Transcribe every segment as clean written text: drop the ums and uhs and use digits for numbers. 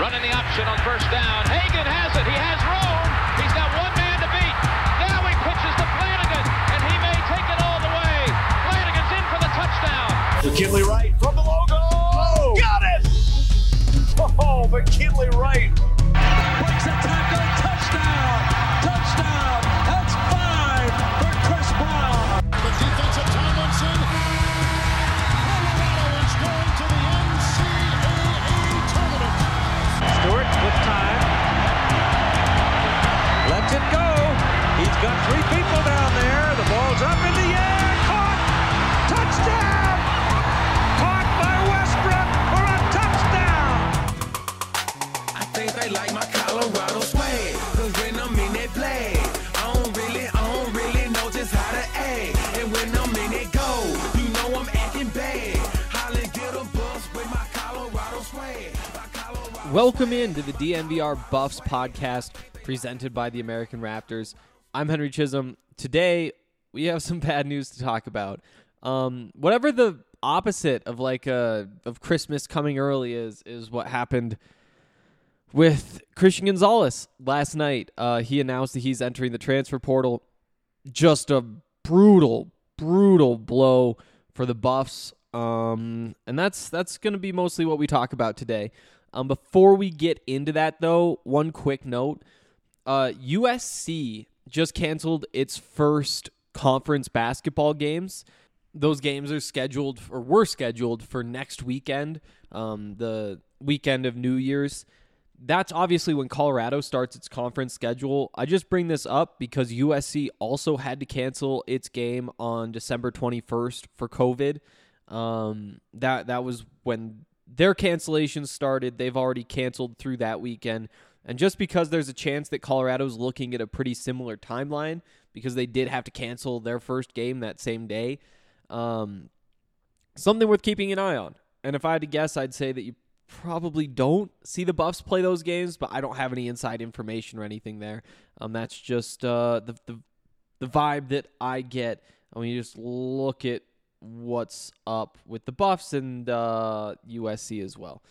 Running the option on first down. Hagan has it. He has room. He's got one man to beat. Now he pitches to Flanagan, and he may take it all the way. Flanagan's in for the touchdown. McKinley Wright from the logo. Oh, got it! Oh, McKinley Wright. Breaks a tackle. Touchdown. Touchdown. That's 5 for Chris Brown. The defensive Tomlinson. Colorado is going to the NCAA tournament. Stewart with time. Lets it go. He's got 3 people down there. The ball's up in the air. Caught. Touchdown. Caught by Westbrook for a touchdown. I think they like my Colorado swag. Cause when I'm in that play, I don't really know just how to act. And when I'm in it go, you know I'm acting bad. Holly get a bus with my Colorado swag. Welcome in to the DNVR Buffs podcast presented by the American Raptors. I'm Henry Chisholm. Today, we have some bad news to talk about. Whatever the opposite of of Christmas coming early is what happened with Christian Gonzalez last night. He announced that he's entering the transfer portal. Just a brutal blow for the Buffs. And that's going to be mostly what we talk about today. Before we get into that, though, one quick note. USC just canceled its first conference basketball games. Those games were scheduled for next weekend, the weekend of New Year's. That's obviously when Colorado starts its conference schedule. I just bring this up because USC also had to cancel its game on December 21st for COVID. That was when their cancellations started. They've already canceled through that weekend. And just because there's a chance that Colorado's looking at a pretty similar timeline, because they did have to cancel their first game that same day, something worth keeping an eye on. And if I had to guess, I'd say that you probably don't see the Buffs play those games, but I don't have any inside information or anything there. That's just the vibe that I get when you just look at what's up with the Buffs and USC as well.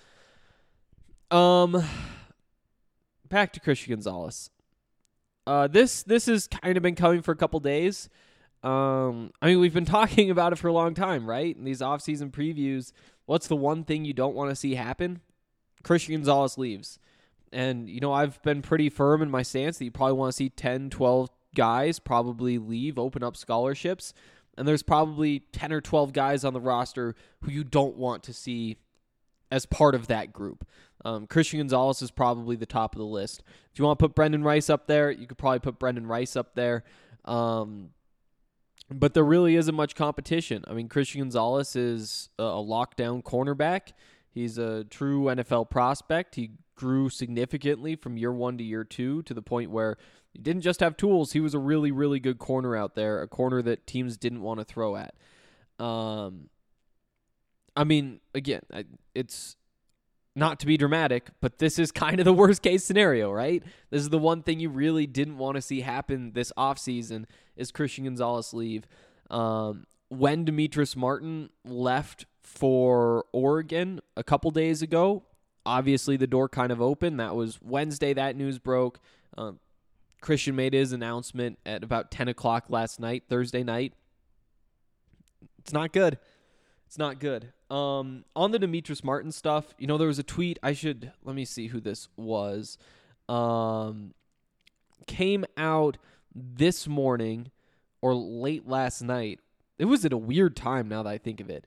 Back to Christian Gonzalez. This has kind of been coming for a couple days. We've been talking about it for a long time, right? In these offseason previews, what's the one thing you don't want to see happen? Christian Gonzalez leaves. And, I've been pretty firm in my stance that you probably want to see 10, 12 guys probably leave, open up scholarships. And there's probably 10 or 12 guys on the roster who you don't want to see as part of that group. Christian Gonzalez is probably the top of the list. If you want to put Brendan Rice up there, you could probably put Brendan Rice up there. But there really isn't much competition. Christian Gonzalez is a lockdown cornerback. He's a true NFL prospect. He grew significantly from year 1 to year 2 to the point where he didn't just have tools. He was a really, really good corner out there, a corner that teams didn't want to throw at. Again, it's not to be dramatic, but this is kind of the worst case scenario, right? This is the one thing you really didn't want to see happen this offseason is Christian Gonzalez leave. When Demetrius Martin left for Oregon a couple days ago, obviously the door kind of opened. That was Wednesday that news broke. Christian made his announcement at about 10 o'clock last night, Thursday night. It's not good. It's not good. On the Demetrius Martin stuff, there was a tweet. Let me see who this was. Came out this morning or late last night. It was at a weird time now that I think of it.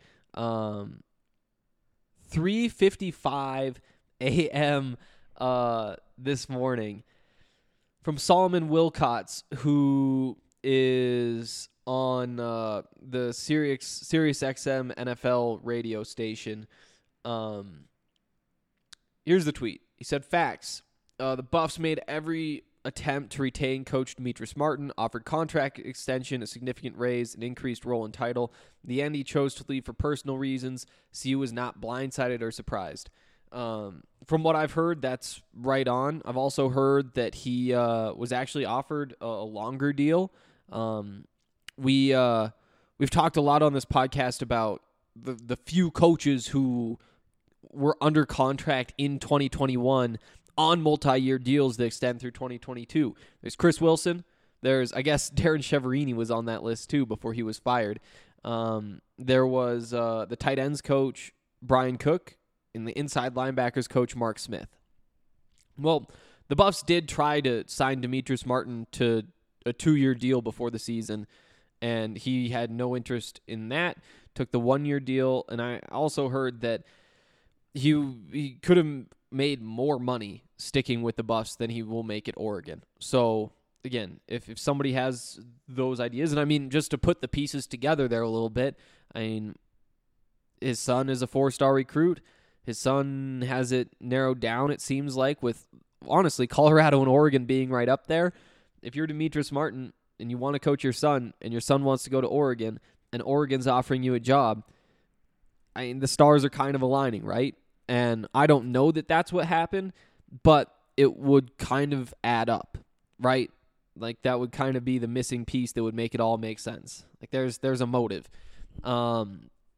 3:55 a.m. This morning from Solomon Wilcots, who is on the Sirius XM NFL radio station. Here's the tweet. He said, "Facts. The Buffs made every attempt to retain Coach Demetrius Martin, offered contract extension, a significant raise, an increased role and title. In the end, he chose to leave for personal reasons. CU was not blindsided or surprised." From what I've heard, that's right on. I've also heard that he was actually offered a longer deal. We've talked a lot on this podcast about the few coaches who were under contract in 2021 on multi-year deals that extend through 2022. There's Chris Wilson. There's, I guess, Darren Cheverini was on that list too before he was fired. There was the tight ends coach, Brian Cook, and the inside linebackers coach, Mark Smith. Well, the Buffs did try to sign Demetrius Martin to a 2-year deal before the season, and he had no interest in that, took the 1-year deal, and I also heard that he could have made more money sticking with the Buffs than he will make at Oregon. So, again, if somebody has those ideas, and I mean, just to put the pieces together there a little bit, I mean, his son is a 4-star recruit. His son has it narrowed down, it seems like, with, honestly, Colorado and Oregon being right up there. If you're Demetrius Martin and you want to coach your son, and your son wants to go to Oregon, and Oregon's offering you a job, I mean, the stars are kind of aligning, right? And I don't know that that's what happened, but it would kind of add up, right? Like, that would kind of be the missing piece that would make it all make sense. Like, there's a motive. So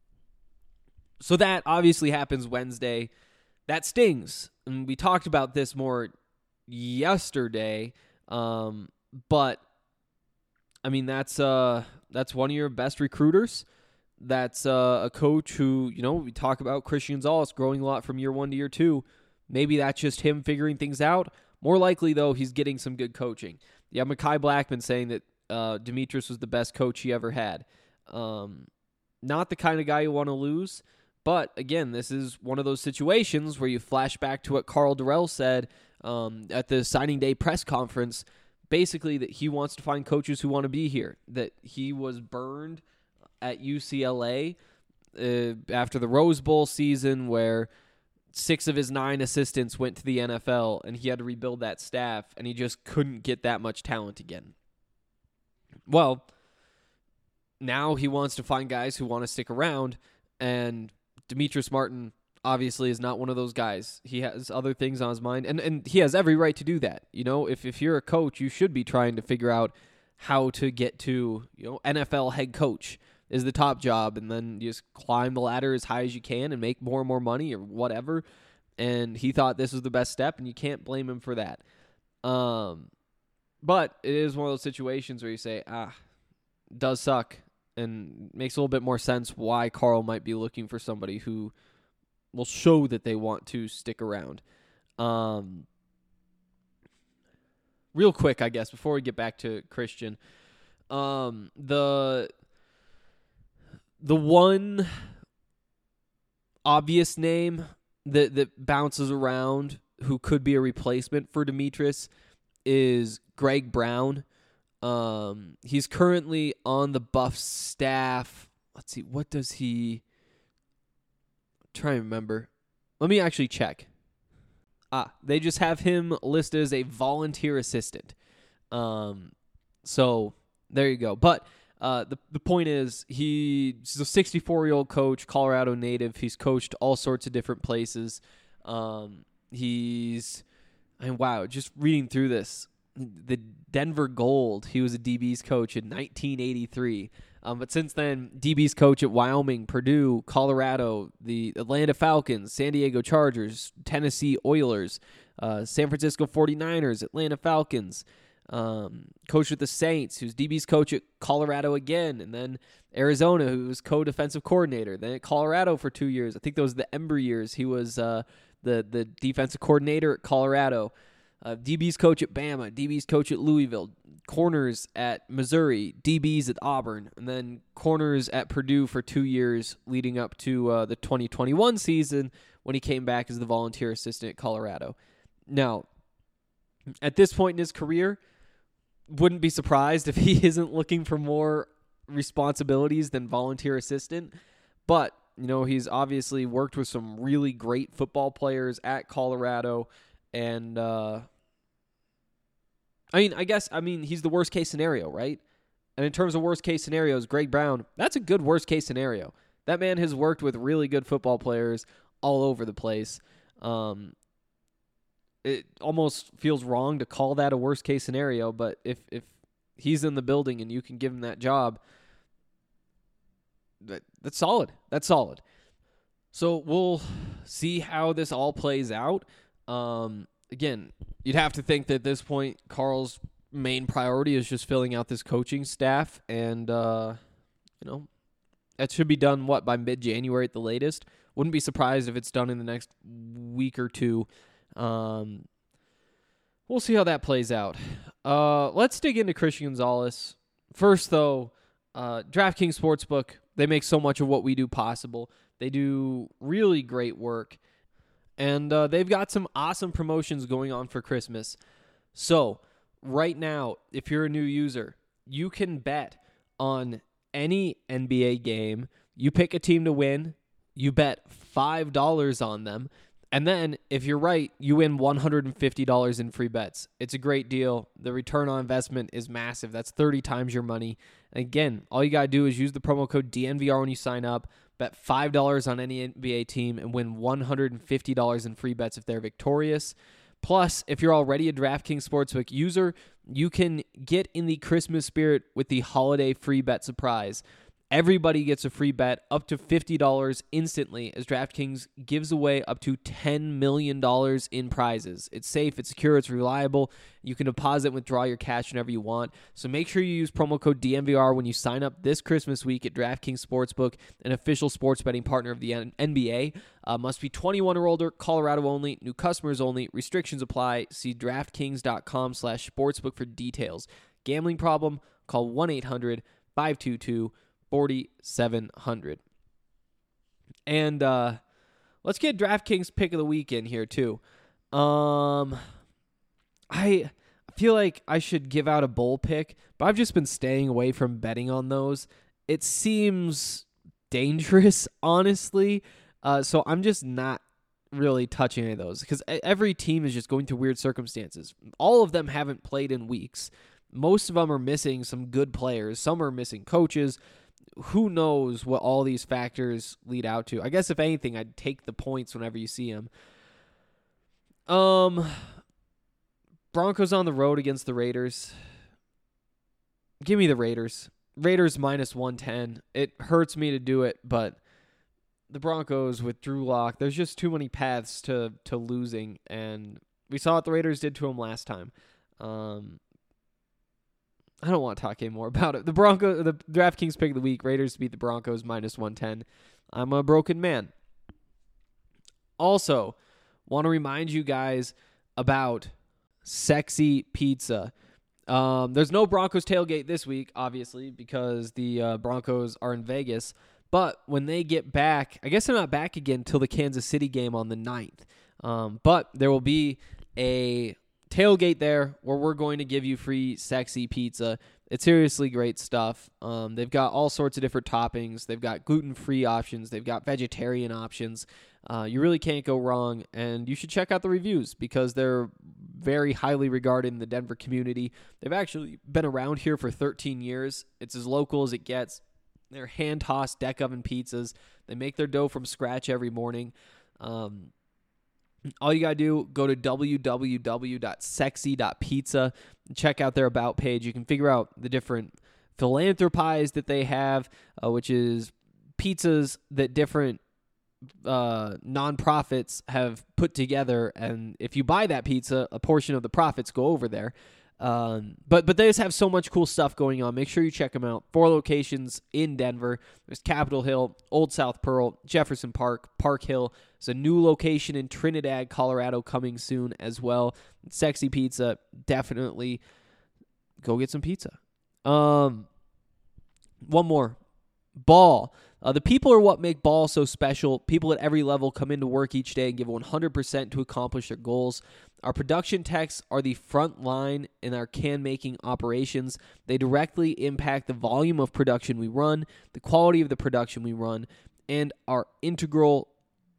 that obviously happens Wednesday. That stings. And we talked about this more yesterday. But I mean, that's one of your best recruiters. That's a coach who, we talk about Christian Zollis growing a lot from year 1 to year 2. Maybe that's just him figuring things out. More likely, though, he's getting some good coaching. Yeah, Mekhi Blackman saying that Demetrius was the best coach he ever had. Not the kind of guy you want to lose. But, again, this is one of those situations where you flash back to what Karl Dorrell said at the signing day press conference, basically that he wants to find coaches who want to be here, that he was burned at UCLA after the Rose Bowl season where 6 of his 9 assistants went to the NFL, and he had to rebuild that staff, and he just couldn't get that much talent again. Well, now he wants to find guys who want to stick around, and Demetrius Martin obviously is not one of those guys. He has other things on his mind, and he has every right to do that. If you're a coach, you should be trying to figure out how to get to, NFL head coach is the top job, and then you just climb the ladder as high as you can and make more and more money or whatever. And he thought this was the best step, and you can't blame him for that. But it is one of those situations where you say, it does suck, and makes a little bit more sense why Karl might be looking for somebody who will show that they want to stick around. Real quick, I guess, before we get back to Christian, the one obvious name that bounces around who could be a replacement for Demetrius is Greg Brown. He's currently on the Buffs staff. Let's see, what does he... try and remember. Let me actually check. They just have him listed as a volunteer assistant. So there you go. But the point is, he's a 64-year-old coach, Colorado native. He's coached all sorts of different places. Just reading through this, the Denver Gold, he was a DB's coach in 1983. But since then, DB's coach at Wyoming, Purdue, Colorado, the Atlanta Falcons, San Diego Chargers, Tennessee Oilers, San Francisco 49ers, Atlanta Falcons, coach with the Saints, who's DB's coach at Colorado again, and then Arizona, who was co-defensive coordinator, then at Colorado for 2 years. I think those were the Ember years. He was the defensive coordinator at Colorado. DB's coach at Bama, DB's coach at Louisville, corners at Missouri, DB's at Auburn, and then corners at Purdue for 2 years leading up to the 2021 season when he came back as the volunteer assistant at Colorado. Now, at this point in his career, wouldn't be surprised if he isn't looking for more responsibilities than volunteer assistant, but he's obviously worked with some really great football players at Colorado. And, he's the worst case scenario, right? And in terms of worst case scenarios, Greg Brown, that's a good worst case scenario. That man has worked with really good football players all over the place. It almost feels wrong to call that a worst case scenario, but if he's in the building and you can give him that job, that's solid. That's solid. So we'll see how this all plays out. Again, you'd have to think that at this point, Carl's main priority is just filling out this coaching staff, and that should be done by mid-January at the latest. Wouldn't be surprised if it's done in the next week or two. We'll see how that plays out. Let's dig into Christian Gonzalez. First, though, DraftKings Sportsbook, they make so much of what we do possible. They do really great work, and they've got some awesome promotions going on for Christmas. So, right now, if you're a new user, you can bet on any NBA game. You pick a team to win, you bet $5 on them, and then, if you're right, you win $150 in free bets. It's a great deal. The return on investment is massive. That's 30 times your money. Again, all you got to do is use the promo code DNVR when you sign up, bet $5 on any NBA team, and win $150 in free bets if they're victorious. Plus, if you're already a DraftKings Sportsbook user, you can get in the Christmas spirit with the holiday free bet surprise. Everybody gets a free bet up to $50 instantly as DraftKings gives away up to $10 million in prizes. It's safe, it's secure, it's reliable. You can deposit and withdraw your cash whenever you want. So make sure you use promo code DNVR when you sign up this Christmas week at DraftKings Sportsbook, an official sports betting partner of the NBA. Must be 21 or older, Colorado only, new customers only. Restrictions apply. See DraftKings.com/sportsbook for details. Gambling problem? Call 1-800-522-4700. And let's get DraftKings pick of the weekend here too. I feel like I should give out a bowl pick, but I've just been staying away from betting on those. It seems dangerous, honestly. So I'm just not really touching any of those because every team is just going through weird circumstances. All of them haven't played in weeks. Most of them are missing some good players. Some are missing coaches. Who knows what all these factors lead out to? I guess if anything, I'd take the points whenever you see them. Broncos on the road against the Raiders. Give me the Raiders. Raiders minus 110. It hurts me to do it, but the Broncos with Drew Lock, there's just too many paths to losing, and we saw what the Raiders did to him last time. I don't want to talk anymore about it. The DraftKings pick of the week, Raiders beat the Broncos minus 110. I'm a broken man. Also, want to remind you guys about Sexy Pizza. There's no Broncos tailgate this week, obviously, because the Broncos are in Vegas. But when they get back, I guess they're not back again until the Kansas City game on the 9th. But there will be a tailgate there where we're going to give you free Sexy Pizza. It's seriously great stuff. They've got all sorts of different toppings. They've got gluten-free options. They've got vegetarian options. You really can't go wrong, and you should check out the reviews because they're very highly regarded in the Denver community. They've actually been around here for 13 years. It's as local as it gets. They're hand-tossed deck oven pizzas. They make their dough from scratch every morning. All you got to do, go to www.sexy.pizza and check out their About page. You can figure out the different philanthropies that they have, which is pizzas that different nonprofits have put together. And if you buy that pizza, a portion of the profits go over there. But they just have so much cool stuff going on. Make sure you check them out. 4 locations in Denver. There's Capitol Hill, Old South Pearl, Jefferson Park, Park Hill. There's a new location in Trinidad, Colorado coming soon as well. Sexy Pizza, definitely go get some pizza. One more. Ball. The people are what make ball so special. People at every level come into work each day and give 100% to accomplish their goals. Our production techs are the front line in our can-making operations. They directly impact the volume of production we run, the quality of the production we run, and are integral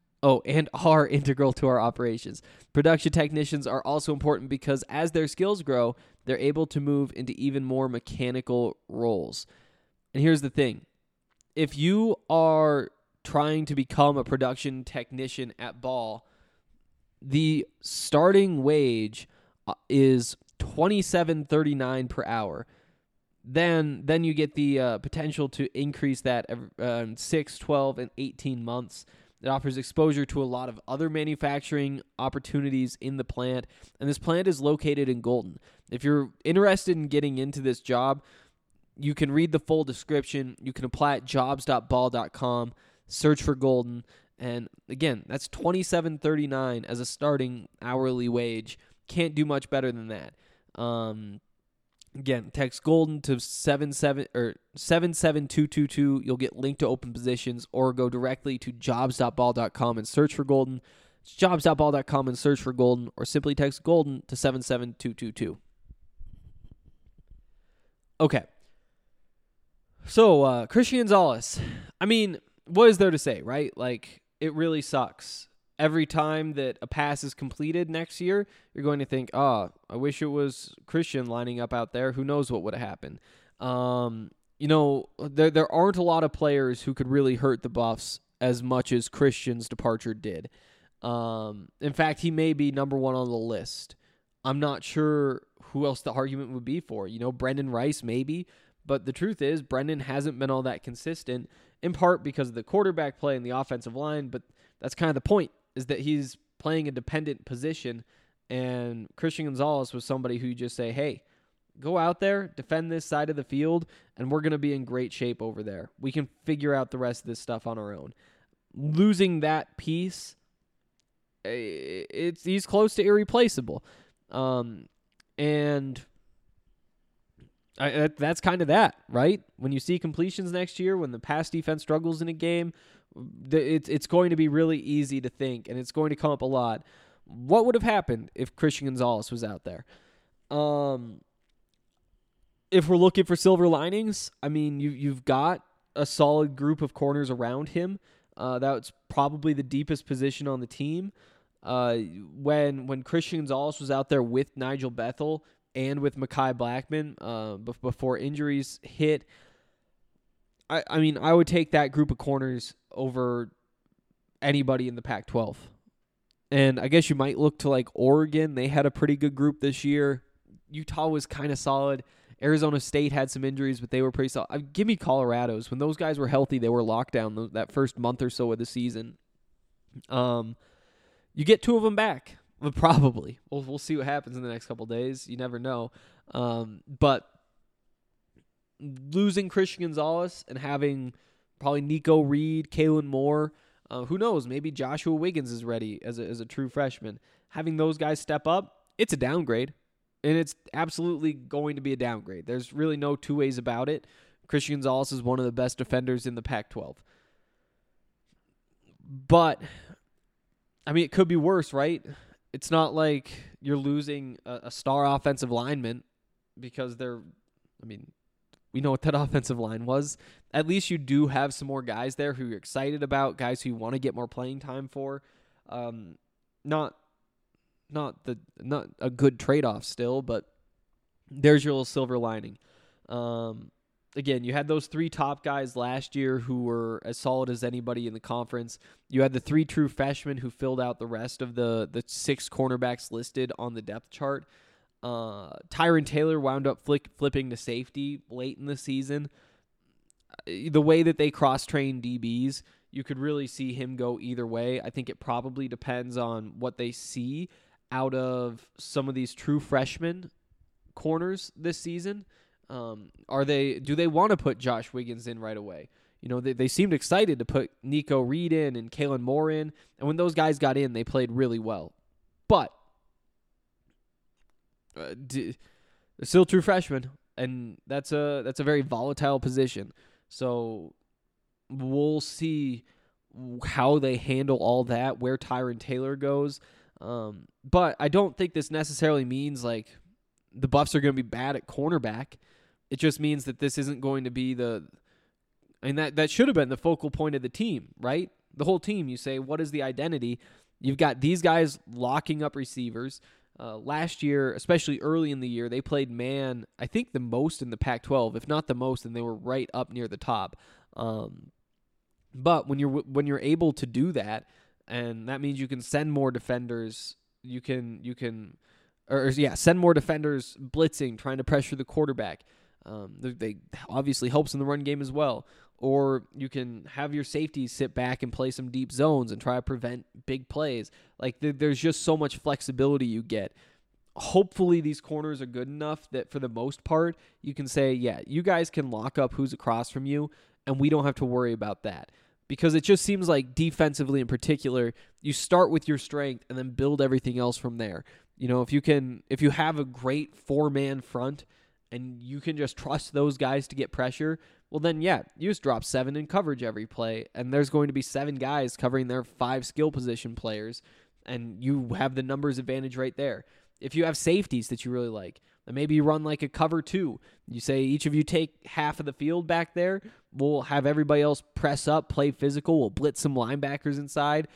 to our operations. Production technicians are also important because as their skills grow, they're able to move into even more mechanical roles. And here's the thing. If you are trying to become a production technician at Ball, the starting wage is $27.39 per hour. Then you get the potential to increase that 6, 12, and 18 months. It offers exposure to a lot of other manufacturing opportunities in the plant, and this plant is located in Golden. If you're interested in getting into this job, you can read the full description. You can apply at jobs.ball.com, search for Golden, and again, that's $27.39 as a starting hourly wage. Can't do much better than that. Again, text Golden to 77222. You'll get linked to open positions, or go directly to jobs.ball.com and search for Golden. It's jobs.ball.com and search for Golden, or simply text Golden to 77222. Okay. So, Christian Gonzalez. I mean, what is there to say, right? Like, it really sucks. Every time that a pass is completed next year, you're going to think, I wish it was Christian lining up out there. Who knows what would have happened? There aren't a lot of players who could really hurt the Buffs as much as Christian's departure did. In fact, he may be number one on the list. I'm not sure who else the argument would be for. Brendan Rice maybe, but the truth is Brendan hasn't been all that consistent, in part because of the quarterback play and the offensive line, but that's kind of the point, is that he's playing a dependent position, and Christian Gonzalez was somebody who you just say, hey, go out there, defend this side of the field, and we're going to be in great shape over there. We can figure out the rest of this stuff on our own. Losing that piece, he's close to irreplaceable. That's kind of that, right? When you see completions next year, when the pass defense struggles in a game, it's going to be really easy to think, and it's going to come up a lot. What would have happened if Christian Gonzalez was out there? If we're looking for silver linings, I mean, you've got a solid group of corners around him. That's probably the deepest position on the team. When Christian Gonzalez was out there with Nigel Bethel and with Mekhi Blackman before injuries hit, I mean, I would take that group of corners over anybody in the Pac-12. And I guess you might look to like Oregon. They had a pretty good group this year. Utah was kind of solid. Arizona State had some injuries, but they were pretty solid. Give me Colorado's. When those guys were healthy, they were locked down that first month or so of the season. You get two of them back, probably. We'll see what happens in the next couple days. You never know. But losing Christian Gonzalez and having probably Nico Reed, Kalen Moore, who knows? Maybe Joshua Wiggins is ready as a true freshman. Having those guys step up, it's a downgrade. And it's absolutely going to be a downgrade. There's really no two ways about it. Christian Gonzalez is one of the best defenders in the Pac-12. But, I mean, it could be worse, right? It's not like you're losing a star offensive lineman because we know what that offensive line was. At least you do have some more guys there who you're excited about, guys who you want to get more playing time for. Not a good trade-off still, but there's your little silver lining. Again, you had those three top guys last year who were as solid as anybody in the conference. You had the three true freshmen who filled out the rest of the six cornerbacks listed on the depth chart. Tyron Taylor wound up flipping to safety late in the season. The way that they cross-train DBs, you could really see him go either way. I think it probably depends on what they see out of some of these true freshman corners this season. Do they want to put Josh Wiggins in right away? They seemed excited to put Nico Reed in and Kalen Moore in, and when those guys got in, they played really well. But they're still true freshmen, and that's a very volatile position. So we'll see how they handle all that, where Tyron Taylor goes. But I don't think this necessarily means like the Buffs are going to be bad at cornerback. It just means that this isn't going to be that should have been the focal point of the team, right? The whole team, you say, what is the identity? You've got these guys locking up receivers. Last year, especially early in the year, they played man, I think the most in the Pac-12, if not the most, and they were right up near the top. But when you're able to do that, and that means you can send more defenders, send more defenders blitzing, trying to pressure the quarterback. They obviously helps in the run game as well. or you can have your safeties sit back and play some deep zones and try to prevent big plays. Like, there's just so much flexibility you get. Hopefully these corners are good enough that for the most part, you can say, yeah, you guys can lock up who's across from you, and we don't have to worry about that. Because it just seems like defensively in particular, you start with your strength and then build everything else from there. You know, if you have a great 4-man front and you can just trust those guys to get pressure, well then, yeah, you just drop 7 in coverage every play, and there's going to be 7 guys covering their 5 skill position players, and you have the numbers advantage right there. If you have safeties that you really like, then maybe you run like a cover 2. You say each of you take half of the field back there. We'll have everybody else press up, play physical. We'll blitz some linebackers inside.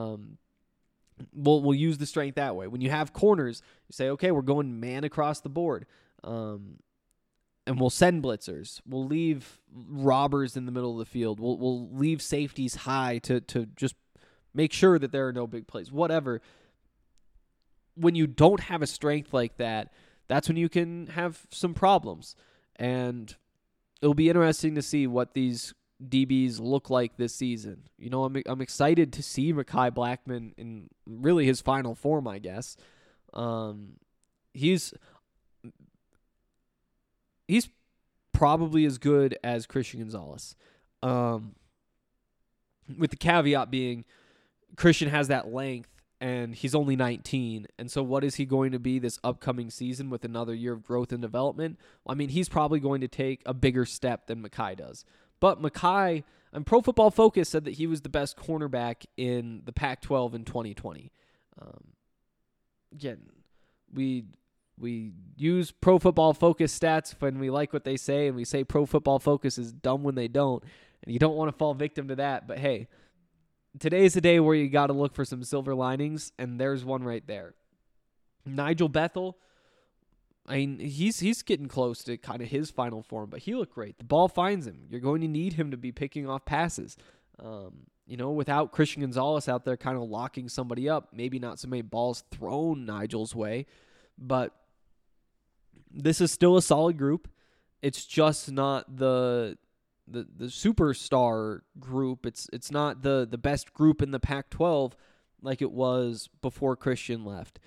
We'll use the strength that way. When you have corners, you say, okay, we're going man across the board. And we'll send blitzers. We'll leave robbers in the middle of the field. We'll leave safeties high to just make sure that there are no big plays. Whatever. When you don't have a strength like that, that's when you can have some problems. And it'll be interesting to see what these DBs look like this season. You know, I'm excited to see Mekhi Blackmon in really his final form, I guess. He's probably as good as Christian Gonzalez. With the caveat being Christian has that length, and he's only 19. And so what is he going to be this upcoming season with another year of growth and development? Well, I mean, he's probably going to take a bigger step than Mekhi does. But Mekhi, and Pro Football Focus said that he was the best cornerback in the Pac-12 in 2020. Again, we use Pro Football Focus stats when we like what they say, and we say Pro Football Focus is dumb when they don't, and you don't want to fall victim to that. But hey, today's a day where you got to look for some silver linings, and there's one right there. Nigel Bethel, I mean, he's getting close to kind of his final form, but he looked great. The ball finds him. You're going to need him to be picking off passes. You know, without Christian Gonzalez out there kind of locking somebody up, maybe not so many balls thrown Nigel's way, but this is still a solid group. It's just not the superstar group. It's not the best group in the Pac-12 like it was before Christian left.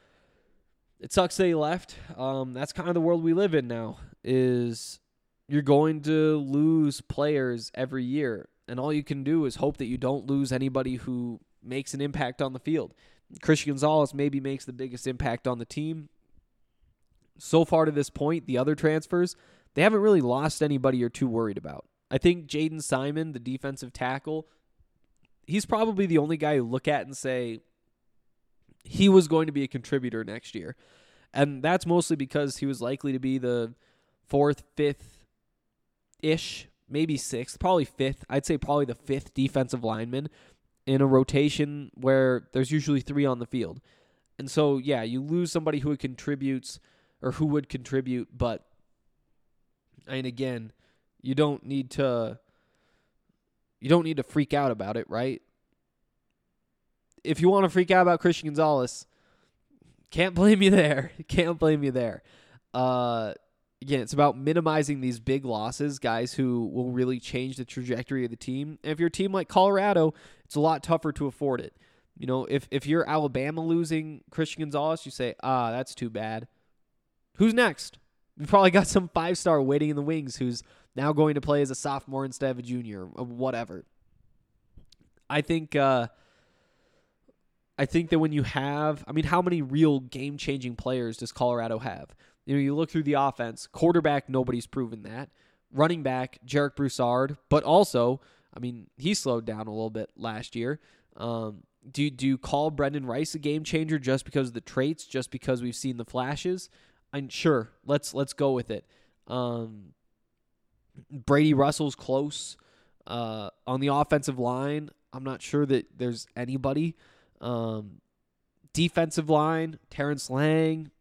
It sucks that he left. That's kind of the world we live in now, is you're going to lose players every year, and all you can do is hope that you don't lose anybody who makes an impact on the field. Christian Gonzalez maybe makes the biggest impact on the team. So far to this point, the other transfers, they haven't really lost anybody you're too worried about. I think Jaden Simon, the defensive tackle, he's probably the only guy you look at and say he was going to be a contributor next year. And that's mostly because he was likely to be the 4th, 5th-ish, maybe 6th, probably 5th. I'd say probably the 5th defensive lineman in a rotation where there's usually 3 on the field. And so, yeah, you lose somebody who would contribute, but, and again, you don't need to freak out about it, right? If you want to freak out about Christian Gonzalez, can't blame you there. Again, it's about minimizing these big losses, guys who will really change the trajectory of the team. And if you're a team like Colorado, it's a lot tougher to afford it. You know, if you're Alabama losing Christian Gonzalez, you say, that's too bad. Who's next? We've probably got some 5-star waiting in the wings who's now going to play as a sophomore instead of a junior, or whatever. I think that when you have, how many real game-changing players does Colorado have? You know, you look through the offense, quarterback, nobody's proven that. Running back, Jarek Broussard, but also, he slowed down a little bit last year. Do you call Brendan Rice a game changer just because of the traits, just because we've seen the flashes? Sure, let's go with it. Brady Russell's close. On the offensive line, I'm not sure that there's anybody. Defensive line, Terrence Lang.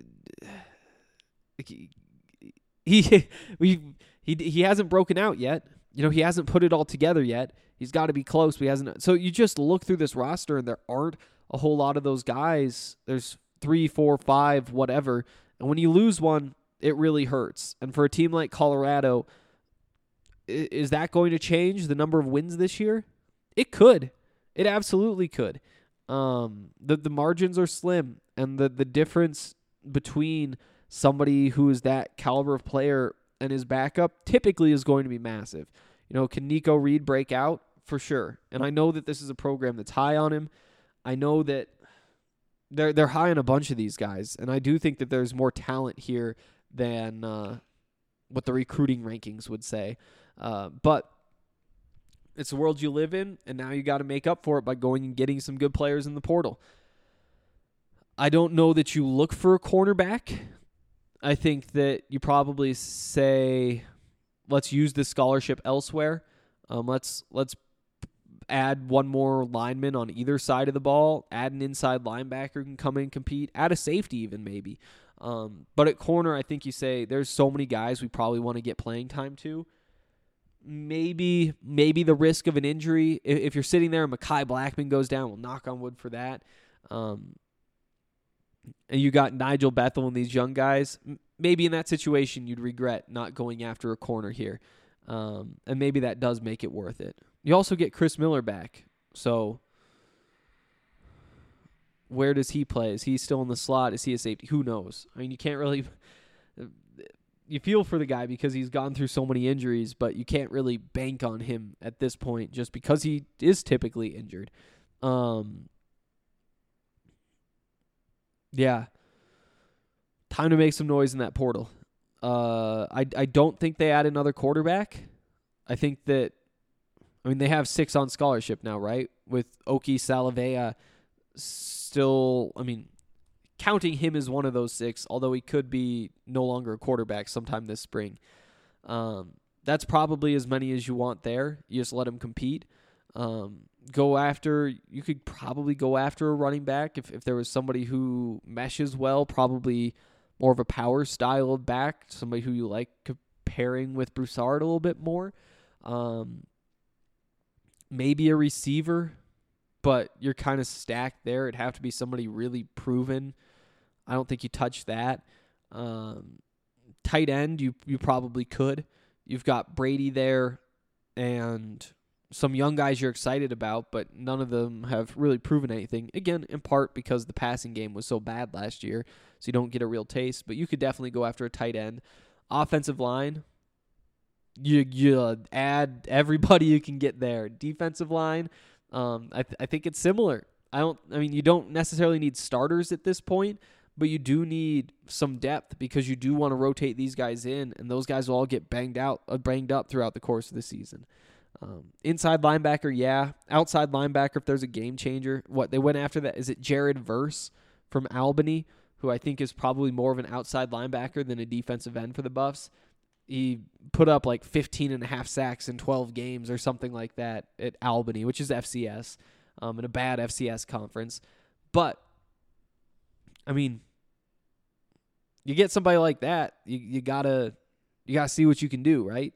He hasn't broken out yet. You know, he hasn't put it all together yet. He's got to be close, but he hasn't. So you just look through this roster, and there aren't a whole lot of those guys. There's 3, 4, 5, whatever. And when you lose one, it really hurts. And for a team like Colorado, Is that going to change the number of wins this year? It could. It absolutely could. The margins are slim, and the difference between somebody who is that caliber of player and his backup typically is going to be massive. Can Nico Reed break out? For sure. And I know that this is a program that's high on him. I know that they're high on a bunch of these guys, and I do think that there's more talent here than what the recruiting rankings would say. But it's the world you live in, and now you got to make up for it by going and getting some good players in the portal. I don't know that you look for a cornerback. I think that you probably say, let's use this scholarship elsewhere. Let's add one more lineman on either side of the ball. Add an inside linebacker who can come in and compete. Add a safety even maybe. But at corner, I think you say there's so many guys we probably want to get playing time to. Maybe the risk of an injury. If you're sitting there and Mekhi Blackman goes down, we'll knock on wood for that. And you got Nigel Bethel and these young guys, maybe in that situation you'd regret not going after a corner here. And maybe that does make it worth it. You also get Chris Miller back. So where does he play? Is he still in the slot? Is he a safety? Who knows? I mean, you can't really... You feel for the guy because he's gone through so many injuries, but you can't really bank on him at this point just because he is typically injured. Yeah. Time to make some noise in that portal. I don't think they add another quarterback. I think that, they have 6 on scholarship now, right? With Oki Salavea still, counting him as one of those 6, although he could be no longer a quarterback sometime this spring. That's probably as many as you want there. You just let him compete. You could probably go after a running back if there was somebody who meshes well, probably more of a power style of back, somebody who you like pairing with Broussard a little bit more. Maybe a receiver, but you're kind of stacked there. It'd have to be somebody really proven. I don't think you touch that. Tight end, you probably could. You've got Brady there and some young guys you're excited about, but none of them have really proven anything. Again, in part because the passing game was so bad last year, so you don't get a real taste. But you could definitely go after a tight end. Offensive line, you add everybody you can get there. Defensive line, I think it's similar. You don't necessarily need starters at this point, but you do need some depth because you do want to rotate these guys in, and those guys will all get banged up throughout the course of the season. Inside linebacker, yeah. Outside linebacker, if there's a game changer. What they went after that, is it Jared Verse from Albany, who I think is probably more of an outside linebacker than a defensive end for the Buffs. He put up like 15 and a half sacks in 12 games or something like that at Albany, which is FCS, in a bad FCS conference. But, you get somebody like that, you gotta see what you can do, right?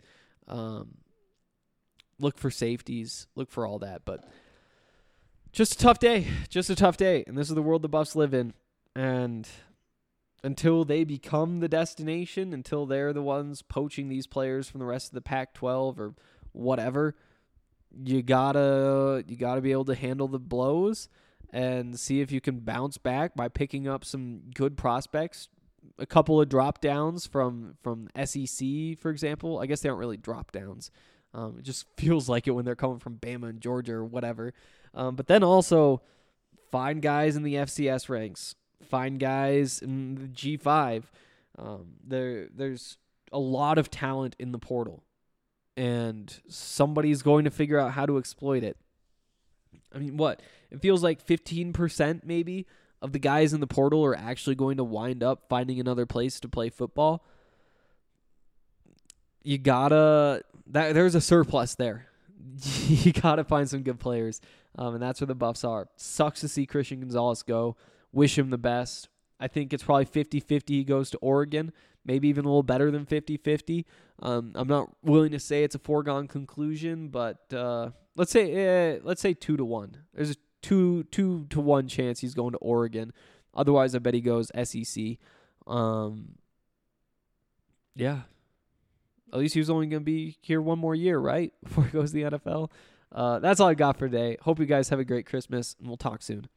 Look for safeties, look for all that, but just a tough day, and this is the world the Buffs live in, and until they become the destination, until they're the ones poaching these players from the rest of the Pac-12 or whatever, you gotta be able to handle the blows and see if you can bounce back by picking up some good prospects, a couple of drop downs from SEC, for example. I guess they aren't really drop downs. It just feels like it when they're coming from Bama and Georgia or whatever. But then also find guys in the FCS ranks, find guys in the G5. There's a lot of talent in the portal, and somebody's going to figure out how to exploit it. It feels like 15% maybe of the guys in the portal are actually going to wind up finding another place to play football. There's a surplus there. You gotta find some good players, and that's where the Buffs are. Sucks to see Christian Gonzalez go. Wish him the best. I think it's probably 50-50 he goes to Oregon, maybe even a little better than 50-50. I'm not willing to say it's a foregone conclusion, but let's say 2-1. There's a 2-1 chance he's going to Oregon. Otherwise, I bet he goes SEC. Yeah. at least he was only going to be here one more year, right? Before he goes to the NFL. That's all I got for today. Hope you guys have a great Christmas, and we'll talk soon.